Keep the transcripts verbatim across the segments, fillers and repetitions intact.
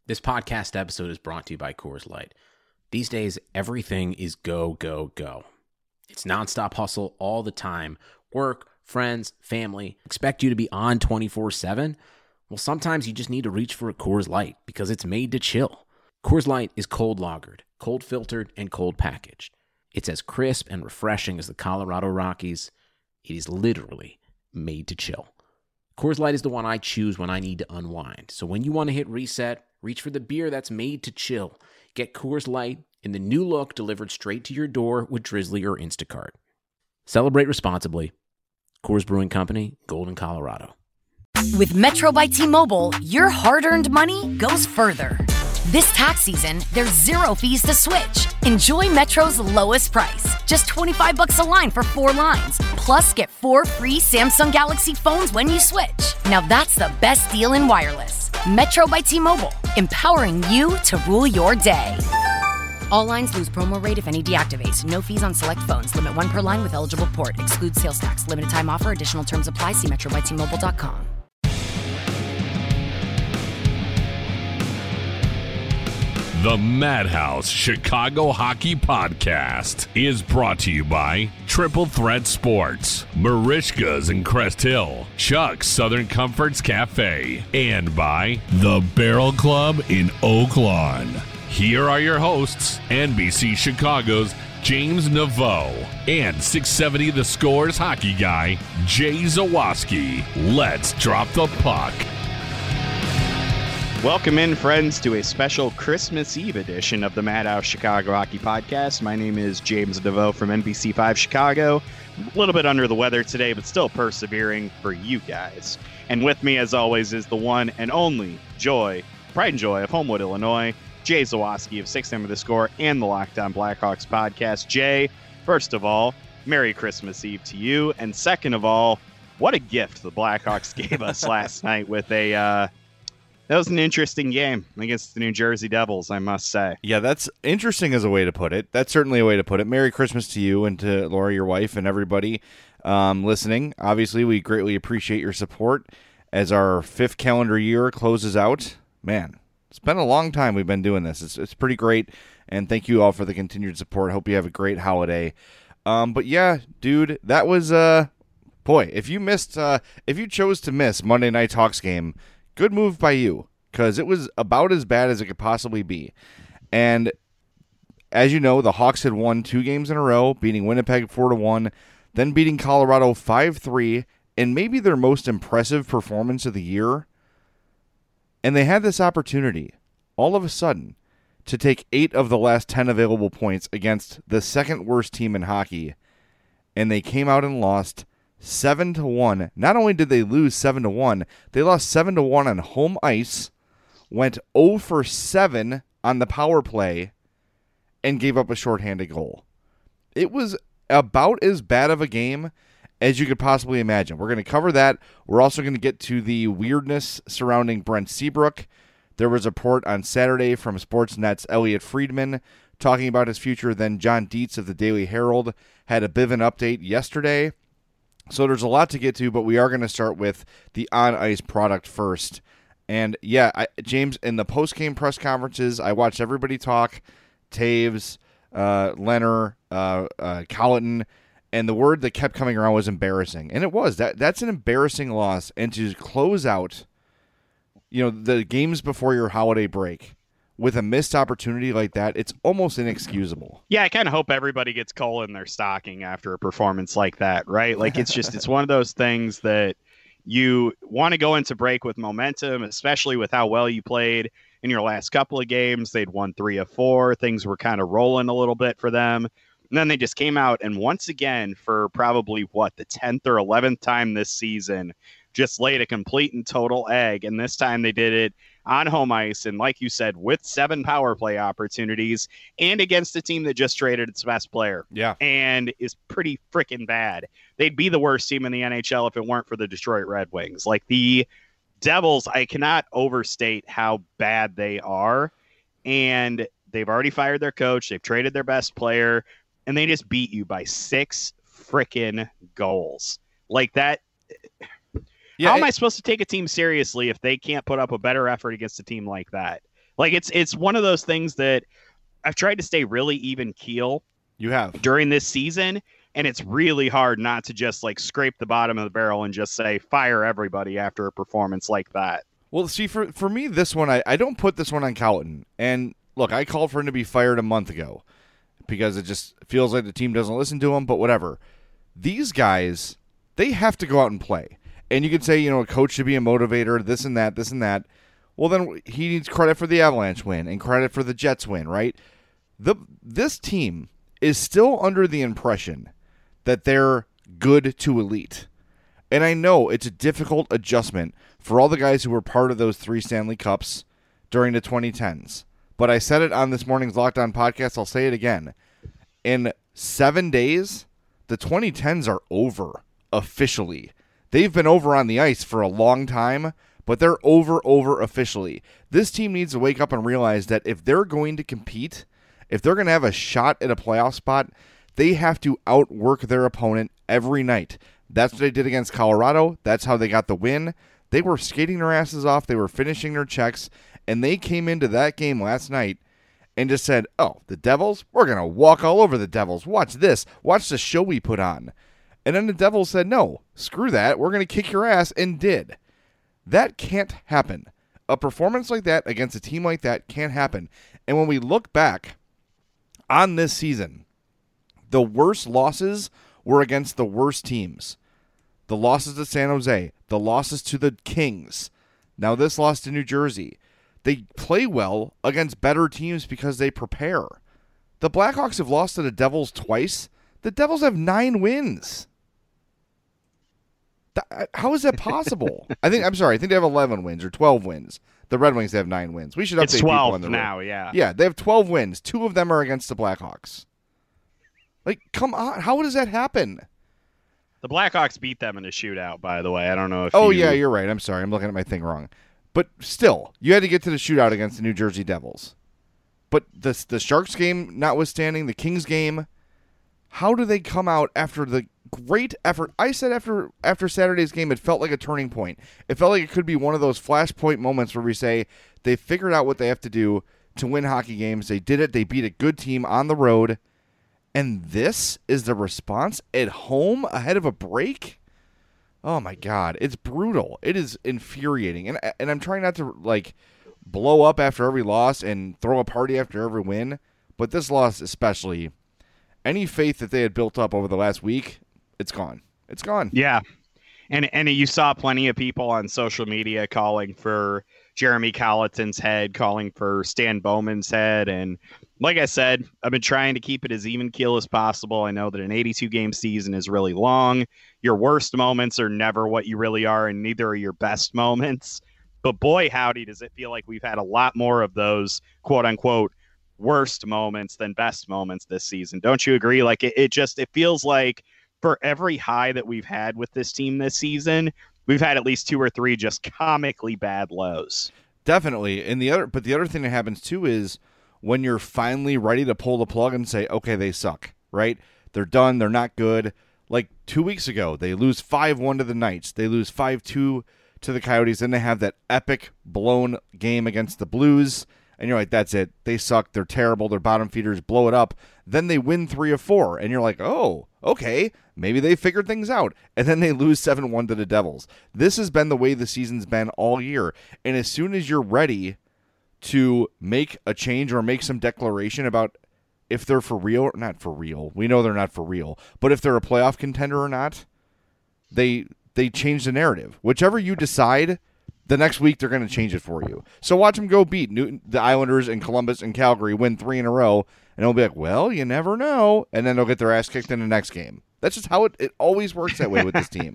This podcast episode is brought to you by Coors Light. These days, everything is go, go, go. It's nonstop hustle all the time. Work, friends, family, expect you to be on twenty-four seven. Well, sometimes you just need to reach for a Coors Light because it's made to chill. Coors Light is cold lagered, cold filtered, and cold packaged. It's as crisp and refreshing as the Colorado Rockies. It is literally made to chill. Coors Light is the one I choose when I need to unwind. So when you want to hit reset, reach for the beer that's made to chill. Get Coors Light in the new look delivered straight to your door with Drizzly or Instacart. Celebrate responsibly. Coors Brewing Company, Golden, Colorado. With Metro by T-Mobile, your hard-earned money goes further. This tax season, there's zero fees to switch. Enjoy Metro's lowest price, just twenty-five bucks a line for four lines. Plus, get four free Samsung Galaxy phones when you switch. Now that's the best deal in wireless. Metro by T-Mobile, empowering you to rule your day. All lines lose promo rate if any deactivates. No fees on select phones. Limit one per line with eligible port. Excludes sales tax. Limited time offer. Additional terms apply. See metro by T Mobile dot com. The Madhouse Chicago Hockey Podcast is brought to you by Triple Threat Sports, Marishka's in Crest Hill, Chuck's Southern Comforts Cafe, and by The Barrel Club in Oak Lawn. Here are your hosts, N B C Chicago's James Naveau and six seventy The Score's hockey guy, Jay Zawaski. Let's drop the puck. Welcome in, friends, to a special Christmas Eve edition of the Madhouse Chicago Hockey Podcast. My name is James Naveau from N B C five Chicago. A little bit under the weather today, but still persevering for you guys. And with me, as always, is the one and only joy, pride and joy of Homewood, Illinois, Jay Zawaski of six seventy The Score and the Locked On Blackhawks podcast. Jay, first of all, Merry Christmas Eve to you. And second of all, what a gift the Blackhawks gave us last night with a... Uh, That was an interesting game against the New Jersey Devils, I must say. Yeah, that's interesting as a way to put it. That's certainly a way to put it. Merry Christmas to you and to Laura, your wife, and everybody um, listening. Obviously, we greatly appreciate your support as our fifth calendar year closes out. Man, it's been a long time we've been doing this. It's, it's pretty great, and thank you all for the continued support. Hope you have a great holiday. Um, but yeah, dude, that was, uh, boy, if you missed, uh, if you chose to miss Monday Night Hawks game, good move by you, because it was about as bad as it could possibly be. And as you know, the Hawks had won two games in a row, beating Winnipeg four to one, then beating Colorado five three, and maybe their most impressive performance of the year. And they had this opportunity, all of a sudden, to take eight of the last ten available points against the second worst team in hockey, and they came out and lost seven to one. Not only did they lose seven to one, they lost seven to one on home ice, went zero for seven on the power play, and gave up a shorthanded goal. It was about as bad of a game as you could possibly imagine. We're going to cover that. We're also going to get to the weirdness surrounding Brent Seabrook. There was a report on Saturday from Sportsnet's Elliot Friedman talking about his future. Then John Dietz of the Daily Herald had a bit of an update yesterday. So there's a lot to get to, but we are going to start with the on-ice product first. And yeah, I, James, in the post-game press conferences, I watched everybody talk, Taves, uh, Leonard, uh, uh, Colleton, and the word that kept coming around was embarrassing. And it was. That That's an embarrassing loss. And to close out, you know, the games before your holiday break with a missed opportunity like that, it's almost inexcusable. Yeah, I kind of hope everybody gets coal in their stocking after a performance like that, right? Like, it's just, it's one of those things that you want to go into break with momentum, especially with how well you played in your last couple of games. They'd won three of four. Things were kind of rolling a little bit for them. And then they just came out and once again, for probably, what, the tenth or eleventh time this season, just laid a complete and total egg. And this time they did it on home ice, and like you said, with seven power play opportunities, and against a team that just traded its best player. Yeah. And is pretty freaking bad. They'd be the worst team in the N H L if it weren't for the Detroit Red Wings. Like, the Devils, I cannot overstate how bad they are, and they've already fired their coach, they've traded their best player, and they just beat you by six freaking goals. Like, that... Yeah, How am it, I supposed to take a team seriously if they can't put up a better effort against a team like that? Like it's it's one of those things that I've tried to stay really even keel. You have during this season, and it's really hard not to just like scrape the bottom of the barrel and just say fire everybody after a performance like that. Well, see, for for me, this one I, I don't put this one on Colliton. And look, I called for him to be fired a month ago because it just feels like the team doesn't listen to him. But whatever, these guys, they have to go out and play. And you could say, you know, a coach should be a motivator, this and that, this and that. Well, then he needs credit for the Avalanche win and credit for the Jets win, right? The this team is still under the impression that they're good to elite. And I know it's a difficult adjustment for all the guys who were part of those three Stanley Cups during the twenty tens. But I said it on this morning's Locked On podcast. I'll say it again. In seven days, the twenty tens are over officially. They've been over on the ice for a long time, but they're over, over officially. This team needs to wake up and realize that if they're going to compete, if they're going to have a shot at a playoff spot, they have to outwork their opponent every night. That's what they did against Colorado. That's how they got the win. They were skating their asses off. They were finishing their checks, and they came into that game last night and just said, oh, the Devils? We're going to walk all over the Devils. Watch this. Watch the show we put on. And then the Devils said, no, screw that. We're going to kick your ass, and did. That can't happen. A performance like that against a team like that can't happen. And when we look back on this season, the worst losses were against the worst teams. The losses to San Jose, the losses to the Kings, now this loss to New Jersey. They play well against better teams because they prepare. The Blackhawks have lost to the Devils twice. The Devils have nine wins. Th- How is that possible? I think I'm sorry. I think they have eleven wins or twelve wins. The Red Wings have nine wins. We should update it's people twelve on the now. road. Yeah, yeah, they have twelve wins. Two of them are against the Blackhawks. Like, come on! How does that happen? The Blackhawks beat them in a shootout. By the way, I don't know if. Oh you... yeah, you're right. I'm sorry. I'm looking at my thing wrong. But still, you had to get to the shootout against the New Jersey Devils. But the the Sharks game notwithstanding, the Kings game, how do they come out after the great effort? I said after after Saturday's game, it felt like a turning point. It felt like it could be one of those flashpoint moments where we say they figured out what they have to do to win hockey games. They did it. They beat a good team on the road. And this is the response at home ahead of a break? Oh, my God. It's brutal. It is infuriating. And and I'm trying not to, like, blow up after every loss and throw a party after every win. But this loss especially, any faith that they had built up over the last week, it's gone. It's gone. Yeah. And and you saw plenty of people on social media calling for Jeremy Colliton's head, calling for Stan Bowman's head. And like I said, I've been trying to keep it as even keel as possible. I know that an eighty-two game season is really long. Your worst moments are never what you really are, and neither are your best moments. But boy, howdy, does it feel like we've had a lot more of those quote unquote worst moments than best moments this season. Don't you agree? Like it, it just, it feels like for every high that we've had with this team this season, we've had at least two or three just comically bad lows. Definitely. And the other, but the other thing that happens too is when you're finally ready to pull the plug and say, okay, they suck, right? They're done. They're not good. Like two weeks ago, they lose five one to the Knights. They lose five two to the Coyotes. Then they have that epic blown game against the Blues. And you're like, that's it. They suck. They're terrible. They're bottom feeders. Blow it up. Then they win three of four. And you're like, oh, okay. Maybe they figured things out. And then they lose seven one to the Devils. This has been the way the season's been all year. And as soon as you're ready to make a change or make some declaration about if they're for real or not for real, we know they're not for real, but if they're a playoff contender or not, they they change the narrative. Whichever you decide, the next week they're going to change it for you. So watch them go beat Newton, the Islanders and Columbus and Calgary, win three in a row, and it'll be like, well, you never know. And then they'll get their ass kicked in the next game. That's just how it, it always works that way with this team.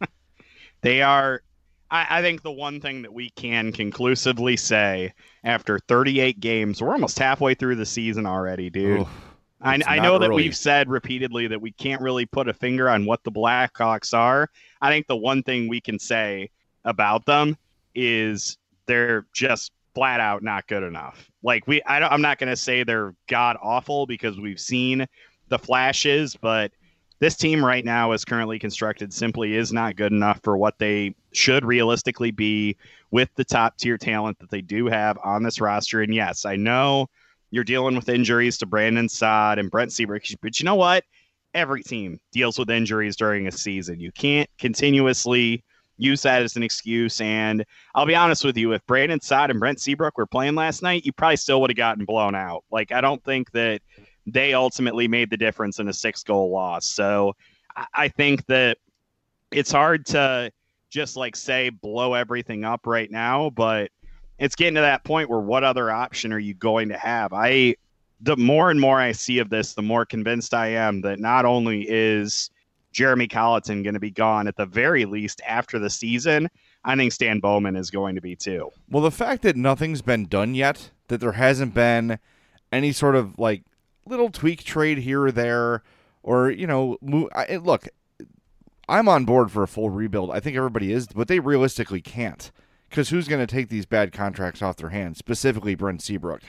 They are, I, I think the one thing that we can conclusively say after thirty-eight games, we're almost halfway through the season already, dude. Oof, I, I know that we've said repeatedly that we can't really put a finger on what the Blackhawks are. I think the one thing we can say about them is they're just flat out not good enough. Like we, I don't, I'm not going to say they're god awful because we've seen the flashes, but this team right now is currently constructed simply is not good enough for what they should realistically be with the top tier talent that they do have on this roster. And yes, I know you're dealing with injuries to Brandon Saad and Brent Seabrook, but you know what? Every team deals with injuries during a season. You can't continuously use that as an excuse. And I'll be honest with you, if Brandon Saad and Brent Seabrook were playing last night, you probably still would have gotten blown out. Like, I don't think that they ultimately made the difference in a six goal loss. So I think that it's hard to just like say blow everything up right now, but it's getting to that point where what other option are you going to have? I, the more and more I see of this, the more convinced I am that not only is Jeremy Colleton going to be gone at the very least after the season, I think Stan Bowman is going to be too. Well, the fact that nothing's been done yet, that there hasn't been any sort of like little tweak trade here or there, or, you know, move, I, look, I'm on board for a full rebuild. I think everybody is, but they realistically can't, because who's going to take these bad contracts off their hands, specifically Brent Seabrook?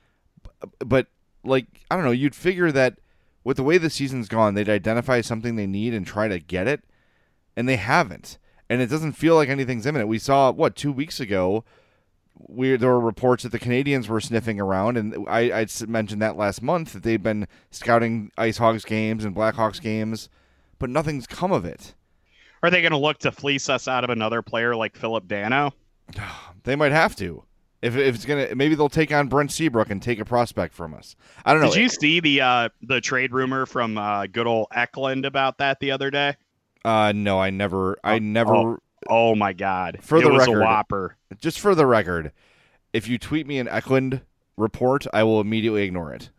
But, like, I don't know, you'd figure that with the way the season's gone, they'd identify something they need and try to get it, and they haven't. And it doesn't feel like anything's imminent. We saw, what, two weeks ago, we, there were reports that the Canadians were sniffing around, and I, I mentioned that last month, that they've been scouting Ice Hawks games and Blackhawks games, but nothing's come of it. Are they going to look to fleece us out of another player like Philip Dano? They might have to. If, if it's gonna, maybe they'll take on Brent Seabrook and take a prospect from us. I don't know. Did you see the uh, the trade rumor from uh, good old Eklund about that the other day? Uh, no, I never. I oh, never. Oh, oh my God! For it the was record, a whopper. Just for the record, if you tweet me an Eklund report, I will immediately ignore it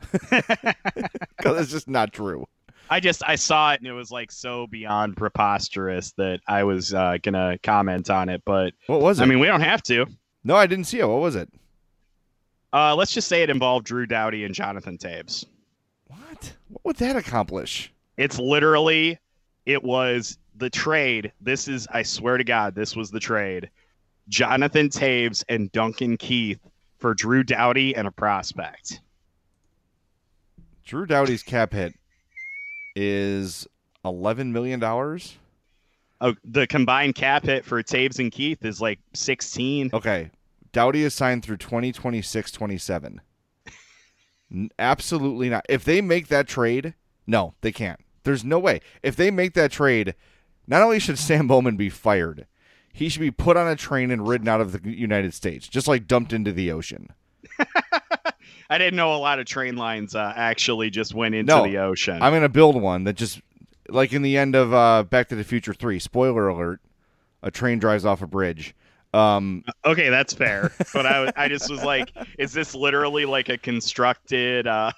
because it's just not true. I just I saw it and it was like so beyond preposterous that I was uh, gonna comment on it. But what was it? I mean, we don't have to. No, I didn't see it. What was it? Uh, let's just say it involved Drew Doughty and Jonathan Toews. What? What would that accomplish? It's literally, it was the trade. This is, I swear to God, this was the trade. Jonathan Toews and Duncan Keith for Drew Doughty and a prospect. Drew Doughty's cap hit is eleven million dollars. Oh, the combined cap hit for Toews and Keith is like sixteen. Okay. Doughty is signed through twenty twenty-six twenty-seven. Absolutely not. If they make that trade, no, they can't. There's no way. If they make that trade, not only should Sam Bowman be fired, he should be put on a train and ridden out of the United States, just like dumped into the ocean. I didn't know a lot of train lines uh, actually just went into no, the ocean. I'm going to build one that just, like in the end of uh, Back to the Future three, spoiler alert, a train drives off a bridge. Um, okay, that's fair. But I, I just was like, is this literally like a constructed... Uh,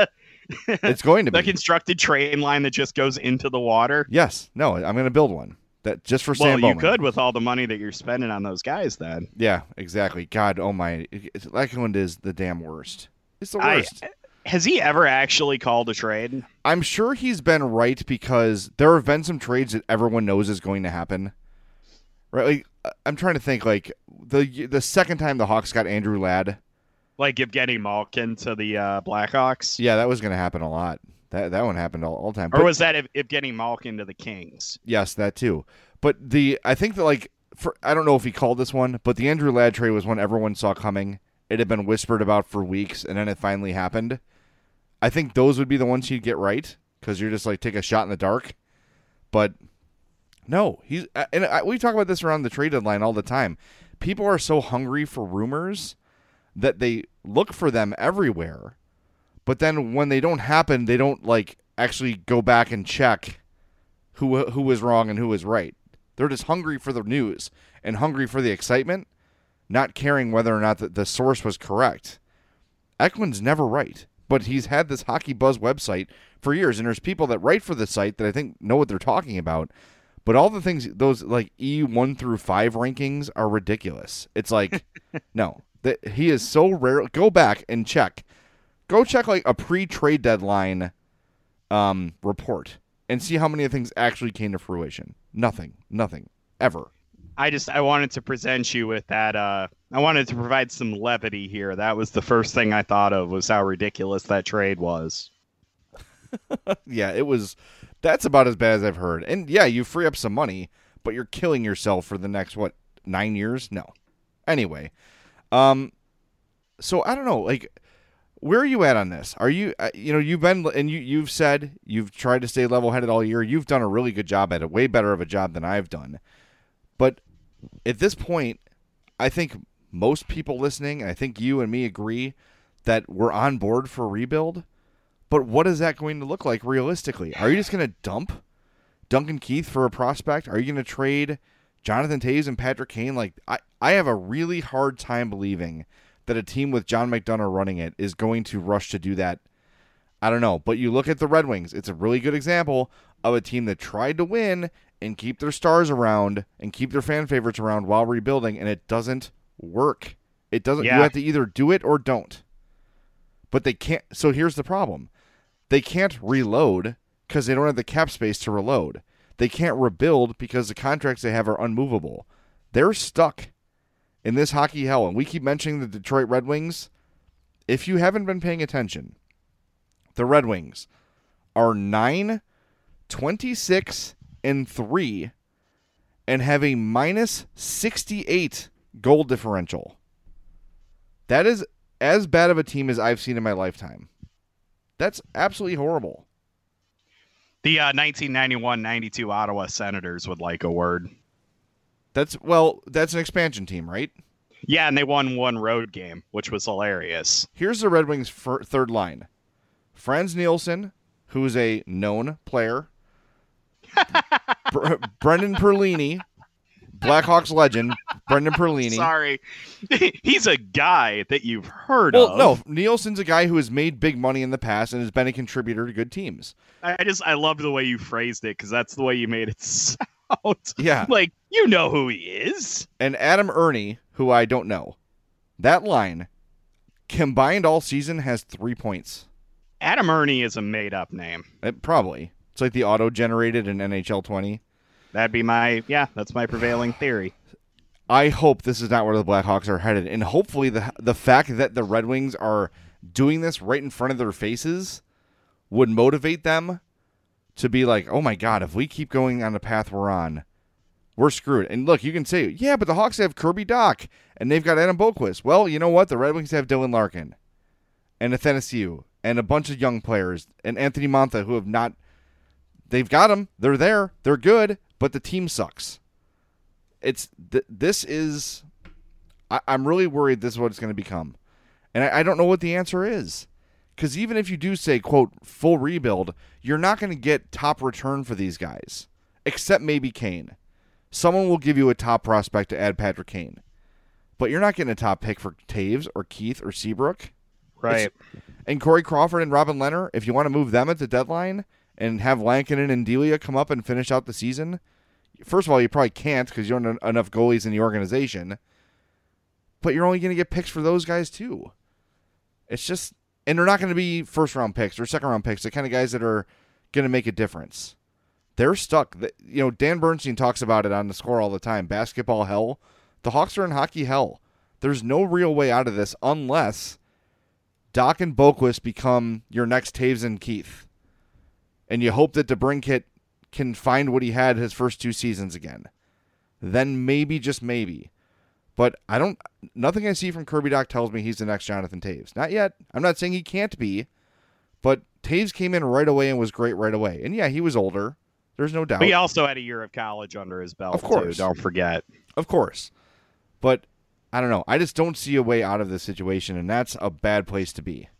it's going to be. A constructed train line that just goes into the water? Yes. No, I'm going to build one. That just for well, Sam Bowman. You could with all the money that you're spending on those guys then. Yeah, exactly. God, oh my. Eklund is the damn worst. It's the worst. I, has he ever actually called a trade? I'm sure he's been right because there have been some trades that everyone knows is going to happen. Right? Like, I'm trying to think, like, the the second time the Hawks got Andrew Ladd. Like Evgeny Malkin to the uh, Blackhawks? Yeah, that was going to happen a lot. That that one happened all, all the time. Or but, was that Evgeny Malkin to the Kings? Yes, that too. But the I think that, like, for I don't know if he called this one, but the Andrew Ladd trade was one everyone saw coming. It had been whispered about for weeks, and then it finally happened. I think those would be the ones you'd get right because you're just like take a shot in the dark. But no, he's and I, we talk about this around the trade deadline all the time. People are so hungry for rumors that they look for them everywhere. But then when they don't happen, they don't like actually go back and check who who was wrong and who was right. They're just hungry for the news and hungry for the excitement, not caring whether or not the, the source was correct. Eklund's never right, but he's had this Hockey Buzz website for years, and there's people that write for the site that I think know what they're talking about. But all the things, those like E one through five rankings are ridiculous. It's like, no, that he is so rare. Go back and check. Go check like a pre-trade deadline um, report and see how many of things actually came to fruition. Nothing. Nothing. Ever. I just, I wanted to present you with that. Uh, I wanted to provide some levity here. That was the first thing I thought of was how ridiculous that trade was. Yeah, it was That's about as bad as I've heard. And yeah, you free up some money, but you're killing yourself for the next, what, nine years? No. Anyway, um, so I don't know, like, where are you at on this? Are you, uh, you know, you've been, and you, you've said you've tried to stay level-headed all year. You've done a really good job at it, way better of a job than I've done. But at this point, I think most people listening, and I think you and me agree that we're on board for a rebuild. But what is that going to look like realistically? Are you just going to dump Duncan Keith for a prospect? Are you going to trade Jonathan Toews and Patrick Kane? Like, I, I have a really hard time believing that a team with John McDonough running it is going to rush to do that. I don't know. But you look at the Red Wings. It's a really good example of a team that tried to win and keep their stars around and keep their fan favorites around while rebuilding, and it doesn't work. It doesn't. Yeah. You have to either do it or don't. But they can't. So here's the problem. They can't reload because they don't have the cap space to reload. They can't rebuild because the contracts they have are unmovable. They're stuck in this hockey hell. And we keep mentioning the Detroit Red Wings. If you haven't been paying attention, the Red Wings are nine, twenty-six, and three and have a minus sixty-eight goal differential. That is as bad of a team as I've seen in my lifetime. That's absolutely horrible. The uh, nineteen ninety-one ninety-two Ottawa Senators would like a word. That's, well, that's an expansion team, right? Yeah, and they won one road game, which was hilarious. Here's the Red Wings' fir- third line. Franz Nielsen, who's a known player. Br- Brendan Perlini, Blackhawks legend, Brendan Perlini. Sorry. He's a guy that you've heard well, of. no, Nielsen's a guy who has made big money in the past and has been a contributor to good teams. I just, I loved the way you phrased it because that's the way you made it sound. Yeah. Like, you know who he is. And Adam Ernie, who I don't know. That line, combined all season, has three points. Adam Ernie is a made-up name. It, probably. It's like the auto-generated in N H L twenty. That'd be my, yeah, that's my prevailing theory. I hope this is not where the Blackhawks are headed. And hopefully the the fact that the Red Wings are doing this right in front of their faces would motivate them to be like, oh my God, if we keep going on the path we're on, we're screwed. And look, you can say, yeah, but the Hawks have Kirby Dach and they've got Adam Boqvist. Well, you know what? The Red Wings have Dylan Larkin and Athanasiou and a bunch of young players and Anthony Mantha who have not, they've got them. They're there. They're good, but the team sucks. It's th- this is, I, I'm really worried this is what it's going to become. And I, I don't know what the answer is. Because even if you do say, quote, full rebuild, you're not going to get top return for these guys. Except maybe Kane. Someone will give you a top prospect to add Patrick Kane. But you're not getting a top pick for Toews or Keith or Seabrook. Right. It's, and Corey Crawford and Robin Lehner, if you want to move them at the deadline and have Lankinen and Delia come up and finish out the season, first of all, you probably can't because you don't have enough goalies in the organization. But you're only going to get picks for those guys too. It's just... And they're not going to be first-round picks or second-round picks, the kind of guys that are going to make a difference. They're stuck. You know, Dan Bernstein talks about it on The Score all the time. Basketball hell. The Hawks are in hockey hell. There's no real way out of this unless Dach and Boqvist become your next Toews and Keith. And you hope that DeBrincat can find what he had his first two seasons again. Then maybe, just maybe. But I don't, nothing I see from Kirby Dach tells me he's the next Jonathan Toews. Not yet. I'm not saying he can't be, but Toews came in right away and was great right away. And yeah, he was older. There's no doubt. But he also had a year of college under his belt, of course. too. Don't forget. Of course. But I don't know. I just don't see a way out of this situation, and that's a bad place to be.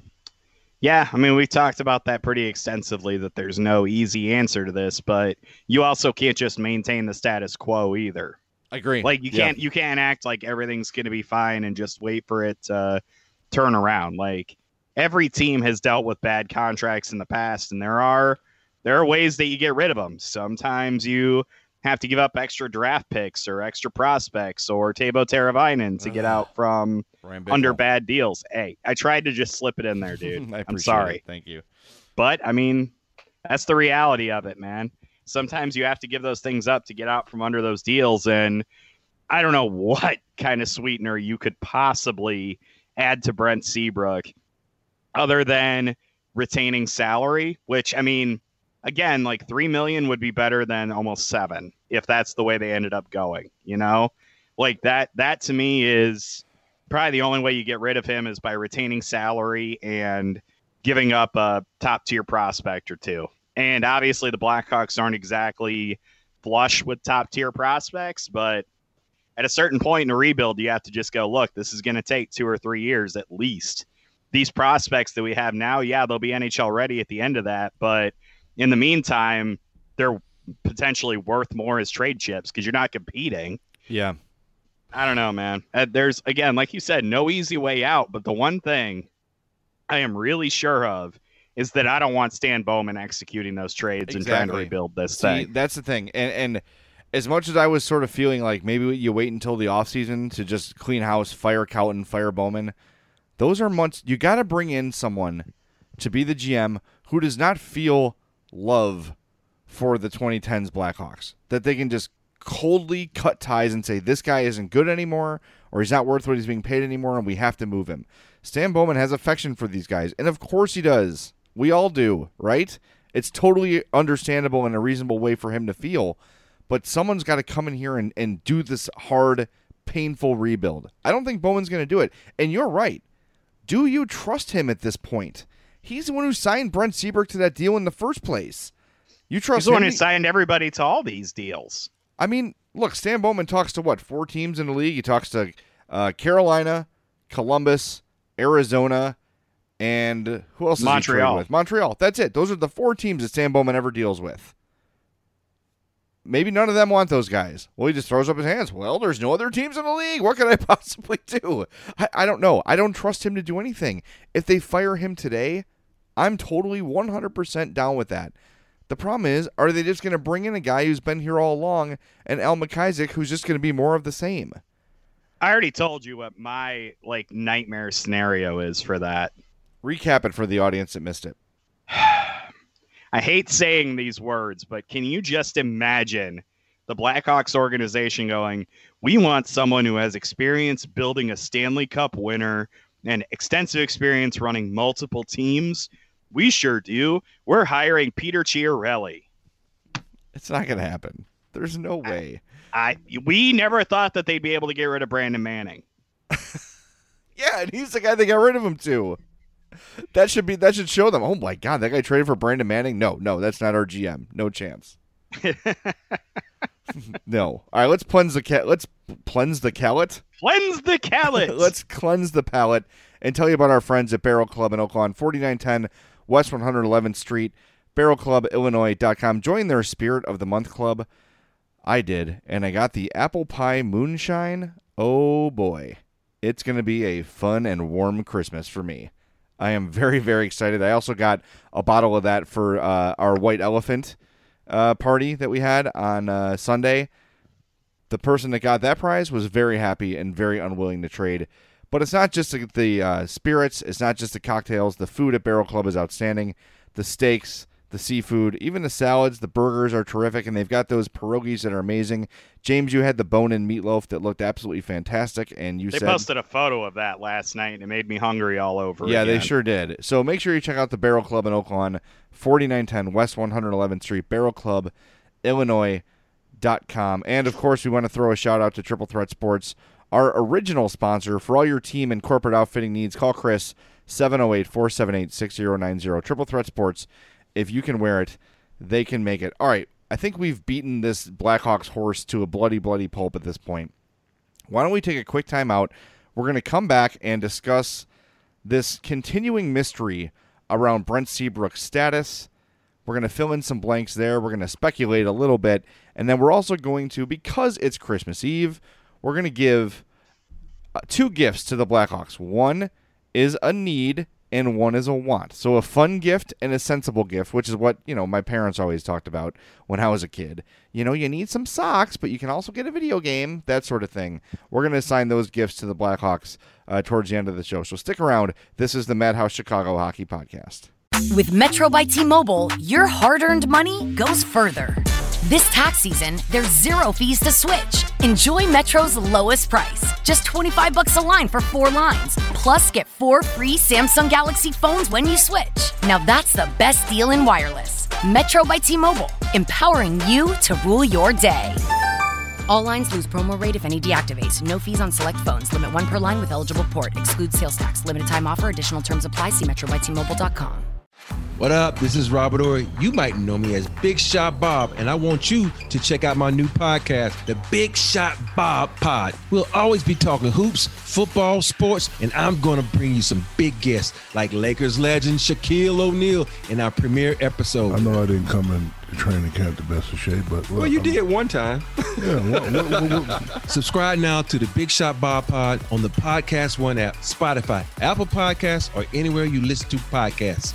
Yeah, I mean, we talked about that pretty extensively, that there's no easy answer to this, but you also can't just maintain the status quo either. I agree. Like you can't yeah. you can't act like everything's going to be fine and just wait for it to turn around. Like every team has dealt with bad contracts in the past, and there are there are ways that you get rid of them. Sometimes you have to give up extra draft picks or extra prospects or Teuvo Teravainen to get out from under bad deals. Hey, I tried to just slip it in there, dude. I'm sorry. It. Thank you. But I mean, that's the reality of it, man. Sometimes you have to give those things up to get out from under those deals. And I don't know what kind of sweetener you could possibly add to Brent Seabrook other than retaining salary, which, I mean, again, like three million would be better than almost seven if that's the way they ended up going. You know, like that. That to me is probably the only way you get rid of him is by retaining salary and giving up a top tier prospect or two. And obviously, the Blackhawks aren't exactly flush with top tier prospects, but at a certain point in a rebuild, you have to just go, look, this is going to take two or three years at least. These prospects that we have now, yeah, they'll be N H L ready at the end of that. But in the meantime, they're potentially worth more as trade chips because you're not competing. Yeah. I don't know, man. Uh, there's, again, like you said, no easy way out. But the one thing I am really sure of is that I don't want Stan Bowman executing those trades Exactly. and trying to rebuild this See, thing. That's the thing. And, and as much as I was sort of feeling like maybe you wait until the offseason to just clean house, fire Cowton, fire Bowman, those are months. You got to bring in someone to be the G M who does not feel love for the twenty tens Blackhawks, that they can just coldly cut ties and say this guy isn't good anymore or he's not worth what he's being paid anymore and we have to move him. Stan Bowman has affection for these guys, and of course he does. We all do, right? It's totally understandable and a reasonable way for him to feel, but someone's got to come in here and, and do this hard, painful rebuild. I don't think Bowman's going to do it, and you're right. Do you trust him at this point? He's the one who signed Brent Seabrook to that deal in the first place. You trust He's the him? one who signed everybody to all these deals. I mean, look, Stan Bowman talks to what, four teams in the league? He talks to uh, Carolina, Columbus, Arizona, and who else is Montreal. he traded with? Montreal. That's it. Those are the four teams that Stan Bowman ever deals with. Maybe none of them want those guys. Well, he just throws up his hands. Well, there's no other teams in the league. What can I possibly do? I, I don't know. I don't trust him to do anything. If they fire him today, I'm totally one hundred percent down with that. The problem is, are they just going to bring in a guy who's been here all along and Al McIsaac who's just going to be more of the same? I already told you what my like nightmare scenario is for that. Recap it for the audience that missed it. I hate saying these words, but can you just imagine the Blackhawks organization going, we want someone who has experience building a Stanley Cup winner and extensive experience running multiple teams? We sure do. We're hiring Peter Chiarelli. It's not going to happen. There's no way. I, I we never thought that they'd be able to get rid of Brandon Manning. Yeah, and he's the guy they got rid of him to. That should be that should show them. Oh my God, that guy traded for Brandon Manning. No, no, that's not our G M. No chance. No. All right, let's cleanse the cat. Let's cleanse the palate. Cleanse the palate. Let's cleanse the palate and tell you about our friends at Barrel Club in Oaklawn, forty-nine ten West one hundred eleventh Street, barrel club illinois dot com. Join their Spirit of the Month Club. I did, and I got the apple pie moonshine. Oh boy, it's going to be a fun and warm Christmas for me. I am very, very excited. I also got a bottle of that for uh, our White Elephant uh, party that we had on uh, Sunday. The person that got that prize was very happy and very unwilling to trade. But it's not just the, the uh, spirits. It's not just the cocktails. The food at Barrel Club is outstanding. The steaks, the seafood, even the salads, the burgers are terrific, and they've got those pierogies that are amazing. James, you had the bone-in meatloaf that looked absolutely fantastic, and you they said... They posted a photo of that last night, and it made me hungry all over Yeah, again. they sure did. So make sure you check out the Barrel Club in Oaklawn, forty-nine ten West one hundred eleventh Street, barrel club illinois dot com. And, of course, we want to throw a shout-out to Triple Threat Sports, our original sponsor. For all your team and corporate outfitting needs, call Chris, seven oh eight, four seven eight, six oh nine oh. Triple Threat Sports. If you can wear it, they can make it. All right, I think we've beaten this Blackhawks horse to a bloody, bloody pulp at this point. Why don't we take a quick time out? We're going to come back and discuss this continuing mystery around Brent Seabrook's status. We're going to fill in some blanks there. We're going to speculate a little bit. And then we're also going to, because it's Christmas Eve, we're going to give uh, two gifts to the Blackhawks. One is a need and one is a want. So a fun gift and a sensible gift, which is what, you know, my parents always talked about when I was a kid. You know, you need some socks, but you can also get a video game, that sort of thing. We're going to assign those gifts to the Blackhawks uh, towards the end of the show. So stick around. This is the Madhouse Chicago Hockey Podcast. With Metro by T-Mobile, your hard-earned money goes further. This tax season, there's zero fees to switch. Enjoy Metro's lowest price, just twenty-five bucks a line for four lines. Plus, get four free Samsung Galaxy phones when you switch. Now that's the best deal in wireless. Metro by T-Mobile, empowering you to rule your day. All lines lose promo rate if any deactivates. No fees on select phones. Limit one per line with eligible port. Excludes sales tax. Limited time offer. Additional terms apply. See metro by T Mobile dot com. What up? This is Robert Ory. You might know me as Big Shot Bob, and I want you to check out my new podcast, The Big Shot Bob Pod. We'll always be talking hoops, football, sports, and I'm going to bring you some big guests like Lakers legend Shaquille O'Neal in our premiere episode. I know I didn't come in to training camp the best of shape, but... Well, well you I'm, did one time. Yeah. What, what, what, what? Subscribe now to The Big Shot Bob Pod on the Podcast One app, Spotify, Apple Podcasts, or anywhere you listen to podcasts.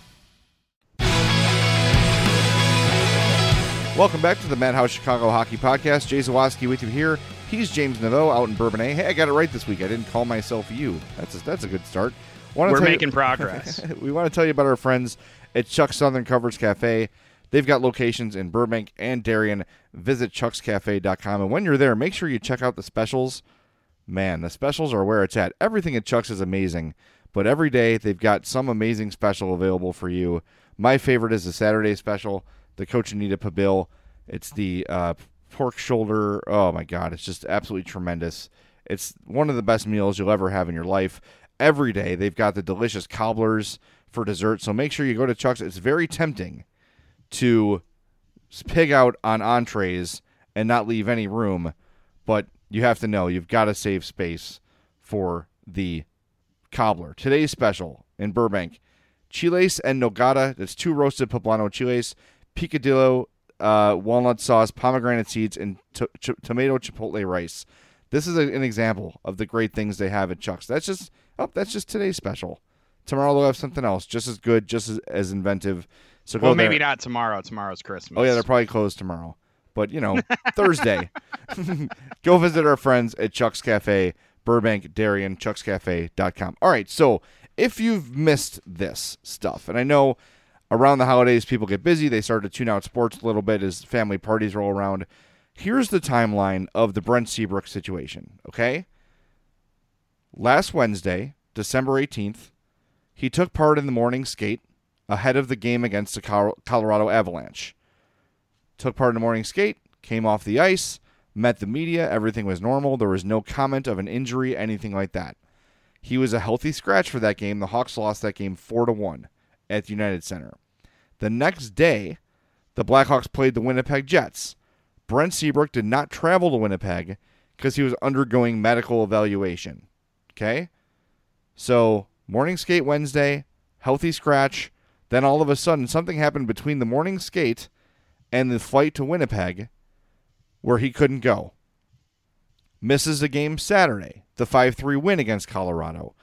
Welcome back to the Madhouse Chicago Hockey Podcast. Jay Zawaski with you here. He's James Naveau out in Bourbonnais. Hey, I got it right this week. I didn't call myself you. That's a, that's a good start. We're making you, progress. We want to tell you about our friends at Chuck's Southern Covers Cafe. They've got locations in Burbank and Darien. Visit chucks cafe dot com. And when you're there, make sure you check out the specials. Man, the specials are where it's at. Everything at Chuck's is amazing, but every day they've got some amazing special available for you. My favorite is the Saturday special. The Cochinita Pibil. It's the uh, pork shoulder. Oh, my God. It's just absolutely tremendous. It's one of the best meals you'll ever have in your life. Every day, they've got the delicious cobblers for dessert. So make sure you go to Chuck's. It's very tempting to pig out on entrees and not leave any room. But you have to know you've got to save space for the cobbler. Today's special in Burbank, chiles and nogada. That's two roasted poblano chiles, picadillo, uh, walnut sauce, pomegranate seeds, and to- ch- tomato chipotle rice. This is a, an example of the great things they have at Chuck's. That's just oh, that's just today's special. Tomorrow they'll have something else, just as good, just as, as inventive. So go well, maybe there. not tomorrow. Tomorrow's Christmas. Oh yeah, they're probably closed tomorrow. But you know, Thursday. Go visit our friends at Chuck's Cafe, Burbank, Darien, chucks cafe dot com. All right, so if you've missed this stuff, and I know around the holidays, people get busy. They start to tune out sports a little bit as family parties roll around. Here's the timeline of the Brent Seabrook situation, okay? Last Wednesday, December eighteenth, he took part in the morning skate ahead of the game against the Colorado Avalanche. Took part in the morning skate, came off the ice, met the media. Everything was normal. There was no comment of an injury, anything like that. He was a healthy scratch for that game. The Hawks lost that game four to one at the United Center. The next day, the Blackhawks played the Winnipeg Jets. Brent Seabrook did not travel to Winnipeg because he was undergoing medical evaluation. Okay? So, morning skate Wednesday, healthy scratch. Then all of a sudden, something happened between the morning skate and the flight to Winnipeg where he couldn't go. Misses the game Saturday, the five three win against Colorado.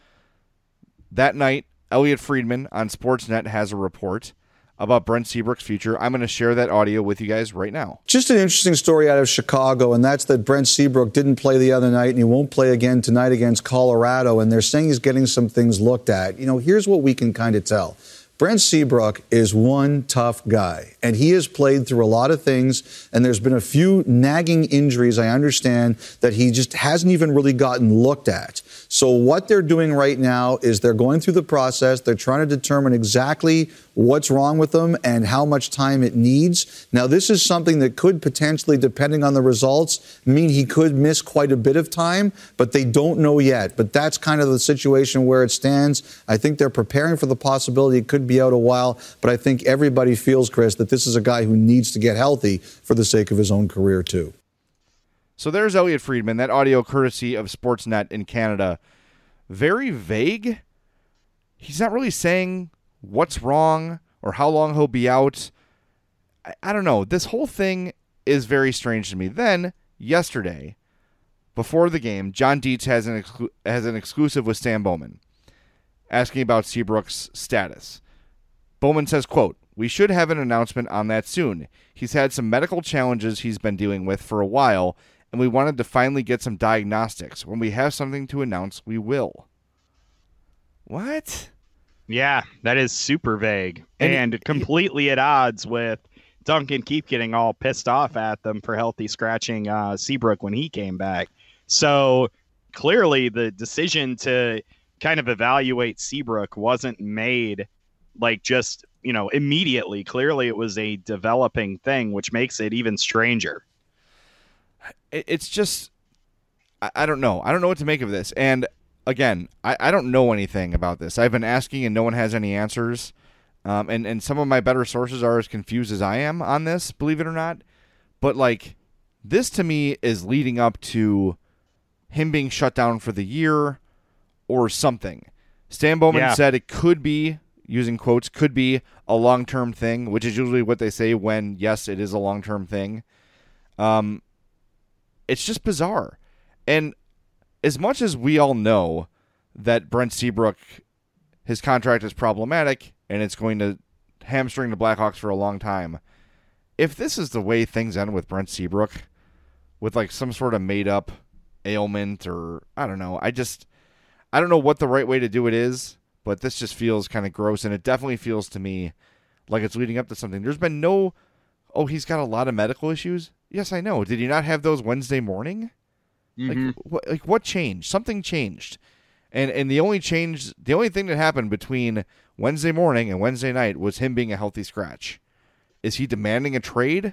That night, Elliot Friedman on Sportsnet has a report about Brent Seabrook's future. I'm going to share that audio with you guys right now. Just an interesting story out of Chicago, and that's that Brent Seabrook didn't play the other night, and he won't play again tonight against Colorado, and they're saying he's getting some things looked at. You know, here's what we can kind of tell. Brent Seabrook is one tough guy, and he has played through a lot of things, and there's been a few nagging injuries, I understand, that he just hasn't even really gotten looked at. So what they're doing right now is they're going through the process. They're trying to determine exactly what's wrong with him and how much time it needs. Now, this is something that could potentially, depending on the results, mean he could miss quite a bit of time, but they don't know yet. But that's kind of the situation where it stands. I think they're preparing for the possibility it could be out a while, but I think everybody feels, Chris, that this is a guy who needs to get healthy for the sake of his own career, too. So there's Elliot Friedman, that audio courtesy of Sportsnet in Canada. Very vague. He's not really saying what's wrong or how long he'll be out. I, I don't know. This whole thing is very strange to me. Then, yesterday, before the game, John Dietz has an, exclu- has an exclusive with Stan Bowman asking about Seabrook's status. Bowman says, quote, "We should have an announcement on that soon. He's had some medical challenges he's been dealing with for a while, and we wanted to finally get some diagnostics. When we have something to announce, we will." What? Yeah, that is super vague And and it, completely at odds with Duncan keep getting all pissed off at them for healthy scratching uh, Seabrook when he came back. So clearly the decision to kind of evaluate Seabrook wasn't made like just, you know, immediately. Clearly it was a developing thing, which makes it even stranger. It's just, I don't know. I don't know what to make of this. And again, I, I don't know anything about this. I've been asking and no one has any answers. Um, and, and some of my better sources are as confused as I am on this, believe it or not. But, like, this to me is leading up to him being shut down for the year or something. Stan Bowman yeah. said it could be, using quotes, could be a long-term thing, which is usually what they say when, yes, it is a long-term thing. Um, it's just bizarre. And as much as we all know that Brent Seabrook, his contract is problematic, and it's going to hamstring the Blackhawks for a long time. If this is the way things end with Brent Seabrook, with like some sort of made-up ailment or, I don't know, I just, I don't know what the right way to do it is, but this just feels kind of gross, and it definitely feels to me like it's leading up to something. There's been no, oh, he's got a lot of medical issues? Yes, I know. Did he not have those Wednesday morning? Mm-hmm. Like, what, like, what changed? Something changed. And and the only change, the only thing that happened between Wednesday morning and Wednesday night was him being a healthy scratch. Is he demanding a trade?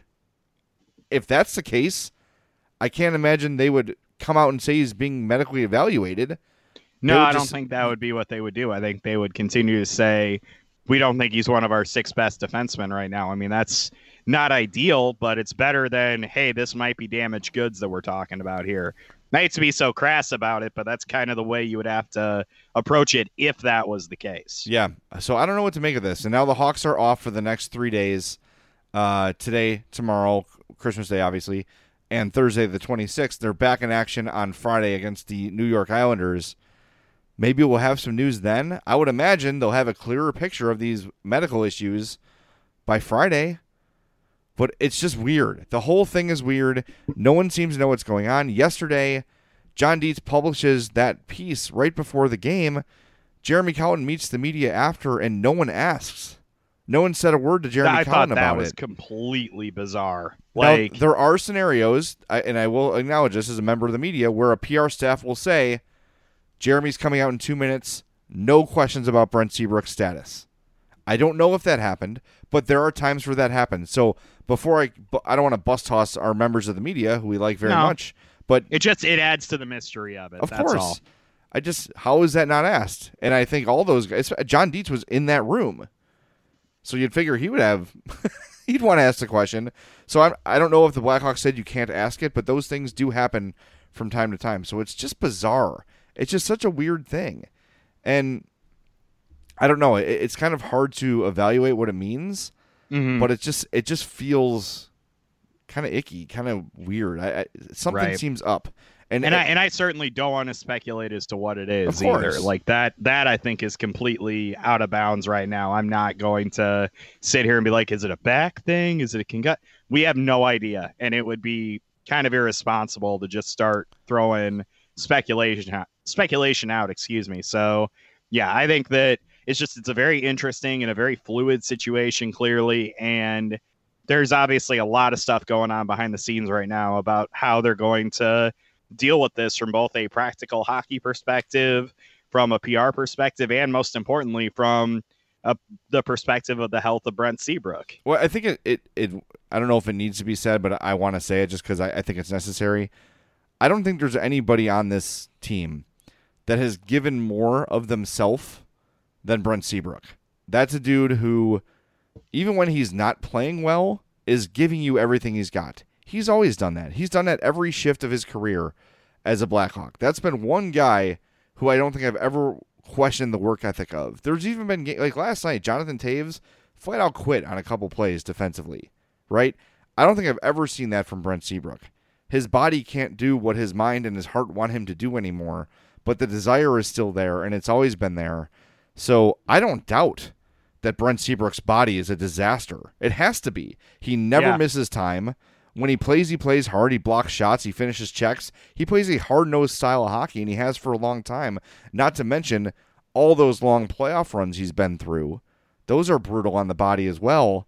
If that's the case, I can't imagine they would come out and say he's being medically evaluated. No, I just, don't think that would be what they would do. I think they would continue to say, we don't think he's one of our six best defensemen right now. I mean, that's not ideal, but it's better than, hey, this might be damaged goods that we're talking about here. I hate to be so crass about it, but that's kind of the way you would have to approach it if that was the case. Yeah, so I don't know what to make of this. And now the Hawks are off for the next three days, uh, today, tomorrow, Christmas Day, obviously, and Thursday the twenty-sixth. They're back in action on Friday against the New York Islanders. Maybe we'll have some news then. I would imagine they'll have a clearer picture of these medical issues by Friday. But it's just weird. The whole thing is weird. No one seems to know what's going on. Yesterday, John Dietz publishes that piece right before the game. Jeremy Colliton meets the media after, and no one asks. No one said a word to Jeremy I Colliton thought about that was it. completely bizarre. Now, Like, there are scenarios, and I will acknowledge this as a member of the media, where a P R staff will say, Jeremy's coming out in two minutes, no questions about Brent Seabrook's status. I don't know if that happened, but there are times where that happens. So before I, I don't want to bust toss our members of the media who we like very No. much, but it just it adds to the mystery of it. of That's course, all. I just how is that not asked? And I think all those guys, John Dietz was in that room, so you'd figure he would have, he'd want to ask the question. So I I don't know if the Blackhawks said you can't ask it, but those things do happen from time to time. So it's just bizarre. It's just such a weird thing, and I don't know. It, it's kind of hard to evaluate what it means, Mm-hmm. but it just it just feels kind of icky, kind of weird. I, I something Right. seems up, and And it, I and I certainly don't want to speculate as to what it is Of course. either. Like that that I think is completely out of bounds right now. I'm not going to sit here and be like, is it a back thing? Is it a congut? We have no idea, and it would be kind of irresponsible to just start throwing speculation out, speculation out. Excuse me. So yeah, I think that it's just it's a very interesting and a very fluid situation, clearly, and there's obviously a lot of stuff going on behind the scenes right now about how they're going to deal with this from both a practical hockey perspective, from a P R perspective, and most importantly, from a, the perspective of the health of Brent Seabrook. well, I think it, it it I don't know if it needs to be said, but I want to say it just because I, I think it's necessary. I don't think there's anybody on this team that has given more of themselves than Brent Seabrook. That's a dude who, even when he's not playing well, is giving you everything he's got. He's always done that. He's done that every shift of his career as a Blackhawk. That's been one guy who I don't think I've ever questioned the work ethic of. There's even been, like last night, Jonathan Taves flat out quit on a couple plays defensively, right? I don't think I've ever seen that from Brent Seabrook. His body can't do what his mind and his heart want him to do anymore, but the desire is still there, and it's always been there. So I don't doubt that Brent Seabrook's body is a disaster. It has to be. He never Yeah. misses time. When he plays, he plays hard. He blocks shots. He finishes checks. He plays a hard-nosed style of hockey, and he has for a long time. Not to mention all those long playoff runs he's been through. Those are brutal on the body as well.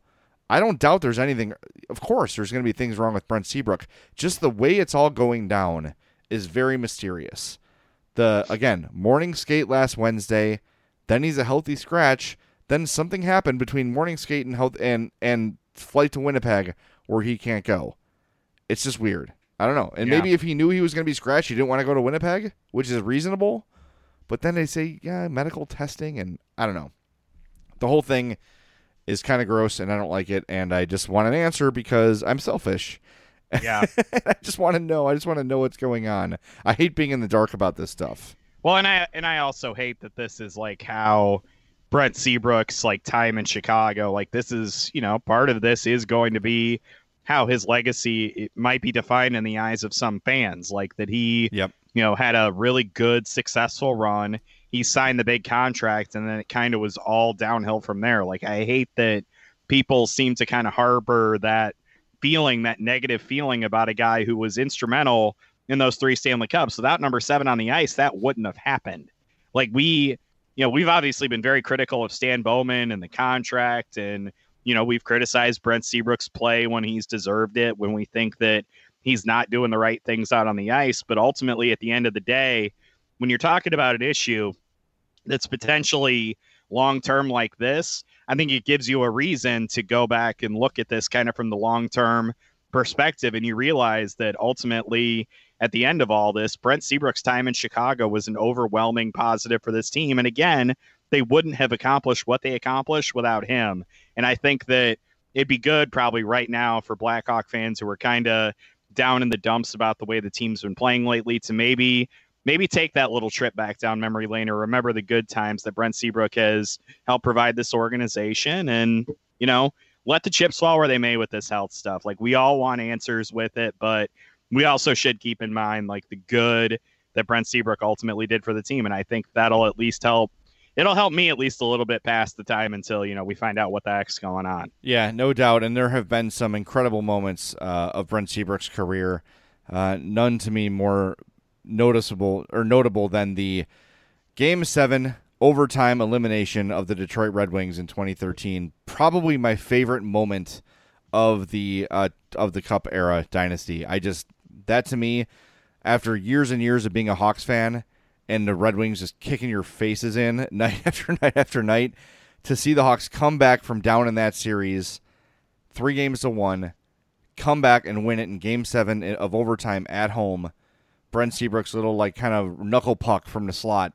I don't doubt there's anything. Of course, there's going to be things wrong with Brent Seabrook. Just the way it's all going down is very mysterious. The again, morning skate last Wednesday, then he's a healthy scratch. Then something happened between morning skate and health and and flight to Winnipeg where he can't go. It's just weird. I don't know. And Yeah. maybe if he knew he was going to be scratched, he didn't want to go to Winnipeg, which is reasonable. But then they say, yeah, medical testing, and I don't know. The whole thing is kind of gross, and I don't like it, and I just want an answer because I'm selfish. Yeah. I just want to know. I just want to know what's going on. I hate being in the dark about this stuff. Well, and I and I also hate that this is like how Brent Seabrook's like time in Chicago. Like this is, you know, part of this is going to be how his legacy it might be defined in the eyes of some fans. Like that he, Yep. you know, had a really good, successful run. He signed the big contract, and then it kind of was all downhill from there. Like I hate that people seem to kind of harbor that feeling, that negative feeling about a guy who was instrumental in those three Stanley Cups. Without number seven on the ice, that wouldn't have happened. Like we, you know, we've obviously been very critical of Stan Bowman and the contract, and, you know, we've criticized Brent Seabrook's play when he's deserved it, when we think that he's not doing the right things out on the ice. But ultimately, at the end of the day, when you're talking about an issue that's potentially long-term like this, I think it gives you a reason to go back and look at this kind of from the long-term perspective. And you realize that ultimately at the end of all this, Brent Seabrook's time in Chicago was an overwhelming positive for this team. And again, they wouldn't have accomplished what they accomplished without him. And I think that it'd be good probably right now for Blackhawk fans who are kind of down in the dumps about the way the team's been playing lately to maybe maybe take that little trip back down memory lane or remember the good times that Brent Seabrook has helped provide this organization and, you know, let the chips fall where they may with this health stuff. Like we all want answers with it, but we also should keep in mind like the good that Brent Seabrook ultimately did for the team. And I think that'll at least help. It'll help me at least a little bit past the time until, you know, we find out what the heck's going on. Yeah, no doubt. And there have been some incredible moments uh, of Brent Seabrook's career. Uh, none to me more noticeable or notable than the Game seven overtime elimination of the Detroit Red Wings in twenty thirteen. Probably my favorite moment of the uh, of the Cup era dynasty. I just, that to me, after years and years of being a Hawks fan and the Red Wings just kicking your faces in night after night after night, to see the Hawks come back from down in that series, three games to one, come back and win it in Game seven of overtime at home. Brent Seabrook's little like kind of knuckle puck from the slot.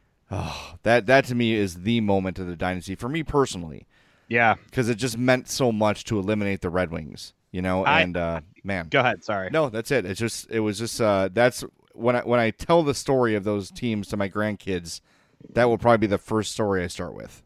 Oh, that that to me is the moment of the dynasty for me personally. Yeah, because it just meant so much to eliminate the Red Wings, you know. I, and uh, man, go ahead. Sorry. No, that's it. It's just it was just uh, that's when I when I tell the story of those teams to my grandkids, that will probably be the first story I start with.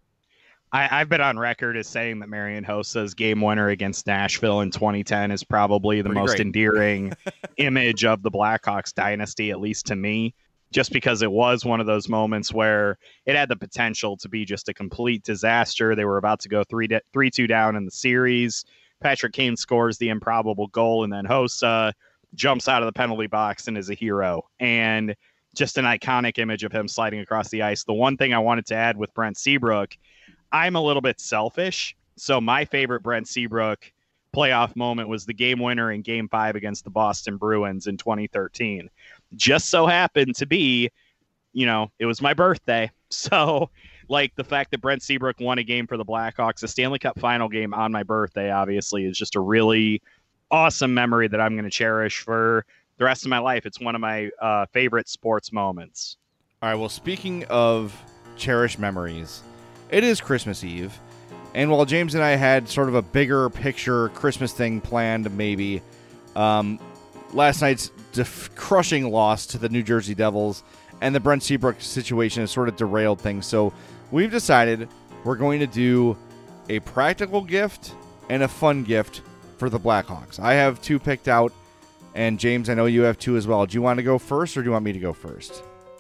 I, I've been on record as saying that Marian Hossa's game winner against Nashville in twenty ten is probably the Pretty most great. endearing image of the Blackhawks dynasty, at least to me, just because it was one of those moments where it had the potential to be just a complete disaster. They were about to go three three two down in the series. Patrick Kane scores the improbable goal, and then Hossa jumps out of the penalty box and is a hero. And just an iconic image of him sliding across the ice. The one thing I wanted to add with Brent Seabrook, I'm a little bit selfish. So my favorite Brent Seabrook playoff moment was the game winner in game five against the Boston Bruins in twenty thirteen. Just so happened to be, you know, it was my birthday. So like the fact that Brent Seabrook won a game for the Blackhawks, a Stanley Cup final game on my birthday, obviously is just a really awesome memory that I'm going to cherish for the rest of my life. It's one of my uh, favorite sports moments. All right. Well, speaking of cherished memories, it is Christmas Eve. And while James and I had sort of a bigger picture Christmas thing planned, maybe, um, last night's def- crushing loss to the New Jersey Devils and the Brent Seabrook situation has sort of derailed things. So we've decided we're going to do a practical gift and a fun gift for the Blackhawks. I have two picked out, and James, I know you have two as well. Do you want to go first, or do you want me to go first?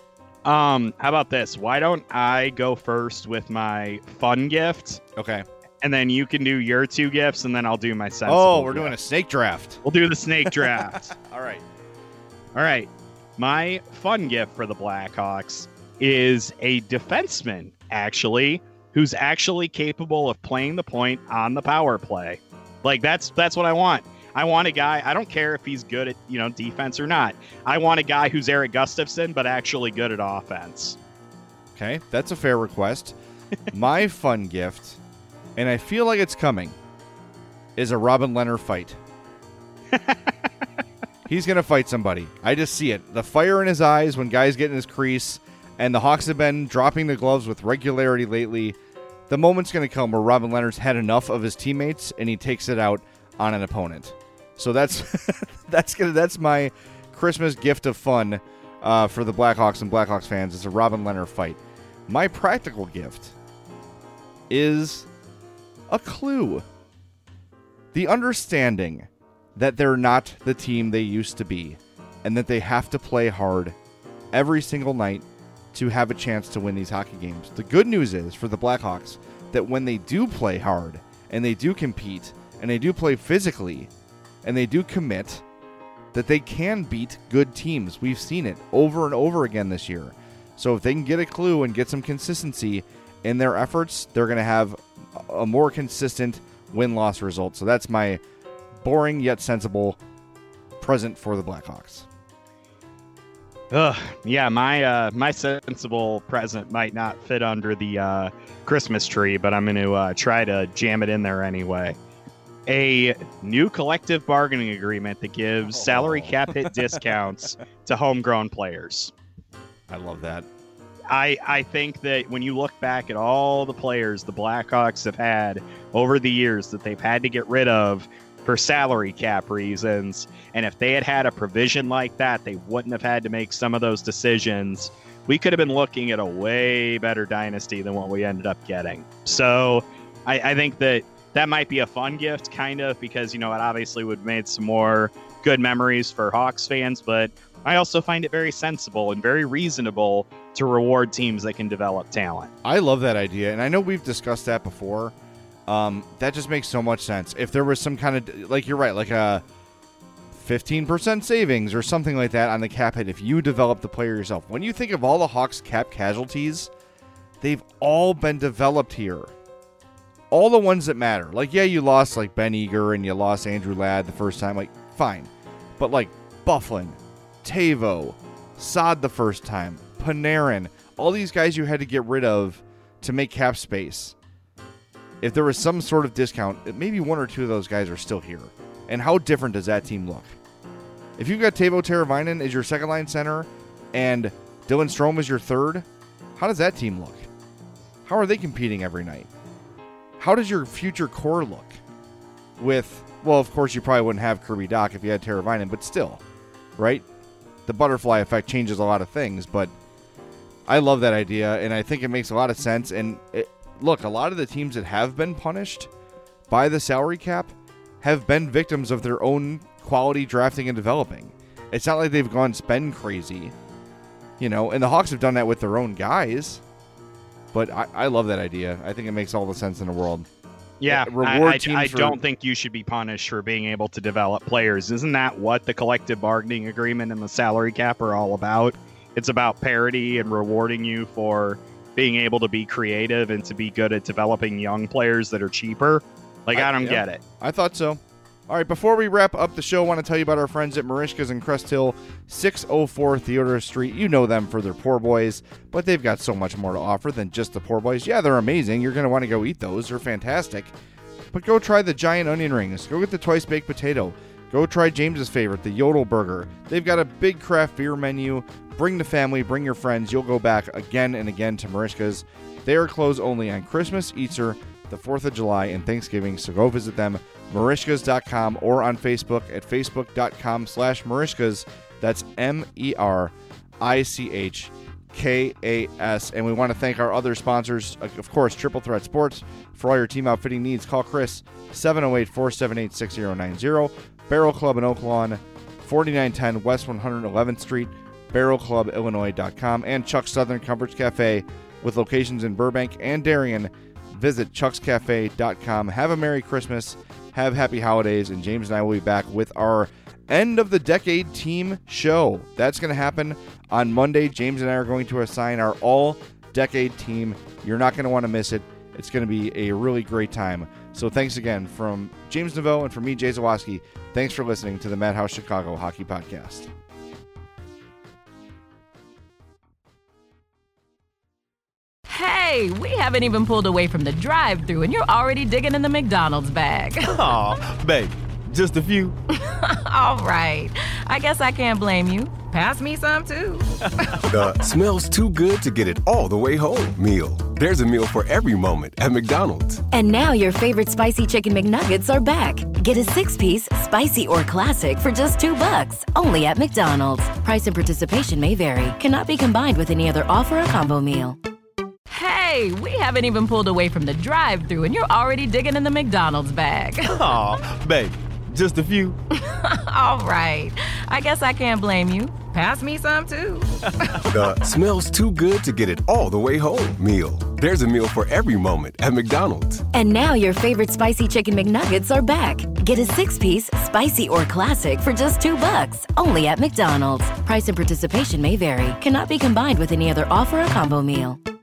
Um, how about this? Why don't I go first with my fun gift? Okay. And then you can do your two gifts, and then I'll do my sensible Oh, we're gift. doing a snake draft. We'll do the snake draft. All right. All right. My fun gift for the Blackhawks is a defenseman, actually, who's actually capable of playing the point on the power play. Like that's that's what I want. I want a guy. I don't care if he's good at, you know, defense or not. I want a guy who's Eric Gustafson, but actually good at offense. Okay, that's a fair request. My fun gift, and I feel like it's coming, is a Robin Lehner fight. He's going to fight somebody. I just see it. The fire in his eyes when guys get in his crease, and the Hawks have been dropping the gloves with regularity lately. The moment's going to come where Robin Lehner's had enough of his teammates, and he takes it out on an opponent. So that's that's gonna, that's my Christmas gift of fun uh, for the Blackhawks and Blackhawks fans. It's a Robin Lehner fight. My practical gift is a clue. The understanding that they're not the team they used to be, and that they have to play hard every single night to have a chance to win these hockey games. The good news is for the Blackhawks that when they do play hard and they do compete and they do play physically and they do commit, that they can beat good teams. We've seen it over and over again this year. So if they can get a clue and get some consistency in their efforts, they're going to have a more consistent win-loss result. So that's my boring yet sensible present for the Blackhawks. Ugh, yeah, my uh, my sensible present might not fit under the uh, Christmas tree, but I'm going to uh, try to jam it in there anyway. A new collective bargaining agreement that gives salary cap hit discounts to homegrown players. I love that. I, I think that when you look back at all the players the Blackhawks have had over the years that they've had to get rid of for salary cap reasons, and if they had had a provision like that, they wouldn't have had to make some of those decisions. We could have been looking at a way better dynasty than what we ended up getting. So I, I think that that might be a fun gift, kind of, because, you know, it obviously would have made some more good memories for Hawks fans, but I also find it very sensible and very reasonable to reward teams that can develop talent. I love that idea, and I know we've discussed that before. Um, that just makes so much sense. If there was some kind of, like you're right, like a fifteen percent savings or something like that on the cap hit, if you develop the player yourself. When you think of all the Hawks cap casualties, they've all been developed here. All the ones that matter. Like, yeah, you lost like Ben Eager and you lost Andrew Ladd the first time. Like, fine. But like Bufflin, Tavo, Saad the first time, Panarin, all these guys you had to get rid of to make cap space. If there was some sort of discount, maybe one or two of those guys are still here. And how different does that team look? If you've got Teuvo Teravainen as your second line center and Dylan Strome as your third, how does that team look? How are they competing every night? How does your future core look? With, well, of course, you probably wouldn't have Kirby Dach if you had Teravainen, but still, right? The butterfly effect changes a lot of things, but I love that idea, and I think it makes a lot of sense. And it, look, a lot of the teams that have been punished by the salary cap have been victims of their own quality drafting and developing. It's not like they've gone spend crazy, you know, and the Hawks have done that with their own guys. But I, I love that idea. I think it makes all the sense in the world. Yeah, reward I, teams I, I for, don't think you should be punished for being able to develop players. Isn't that what the collective bargaining agreement and the salary cap are all about? It's about parity and rewarding you for being able to be creative and to be good at developing young players that are cheaper. Like, I, I don't yeah, get it. I thought so. All right, before we wrap up the show, I want to tell you about our friends at Merichka's in Crest Hill, six oh four Theodore Street. You know them for their poor boys, but they've got so much more to offer than just the poor boys. Yeah, they're amazing. You're going to want to go eat those. They're fantastic. But go try the giant onion rings. Go get the twice baked potato. Go try James's favorite, the Yodel Burger. They've got a big craft beer menu. Bring the family, bring your friends. You'll go back again and again to Merichka's. They are closed only on Christmas, Easter, the fourth of July, and Thanksgiving, so go visit them, Merichkas dot com, or on Facebook at facebook.com slash Merichkas. That's M E R I C H K A S. And we want to thank our other sponsors, of course, Triple Threat Sports. For all your team outfitting needs, call Chris, seven oh eight, four seven eight, six oh nine oh. Barrel Club in Oak Lawn, forty-nine ten West one hundred eleventh Street, barrel club illinois dot com, and Chuck's Southern Comforts Cafe with locations in Burbank and Darien. Visit chucks cafe dot com. Have a Merry Christmas. Have happy holidays. And James and I will be back with our end of the decade team show. That's going to happen on Monday. James and I are going to assign our all decade team. You're not going to want to miss it. It's going to be a really great time. So thanks again from James Naveau and from me, Jay Zawaski. Thanks for listening to the Madhouse Chicago Hockey Podcast. Hey, we haven't even pulled away from the drive-thru and you're already digging in the McDonald's bag. Aw, babe, just a few. All right, I guess I can't blame you. Pass me some, too. The smells too good to get it all the way home meal. There's a meal for every moment at McDonald's. And now your favorite spicy chicken McNuggets are back. Get a six-piece, spicy or classic for just two bucks, only at McDonald's. Price and participation may vary. Cannot be combined with any other offer or combo meal. Hey, we haven't even pulled away from the drive-thru and you're already digging in the McDonald's bag. Aw, babe, just a few. All right, I guess I can't blame you. Pass me some, too. The smells too good to get it all the way home meal. There's a meal for every moment at McDonald's. And now your favorite spicy chicken McNuggets are back. Get a six-piece, spicy or classic for just two bucks, only at McDonald's. Price and participation may vary. Cannot be combined with any other offer or combo meal.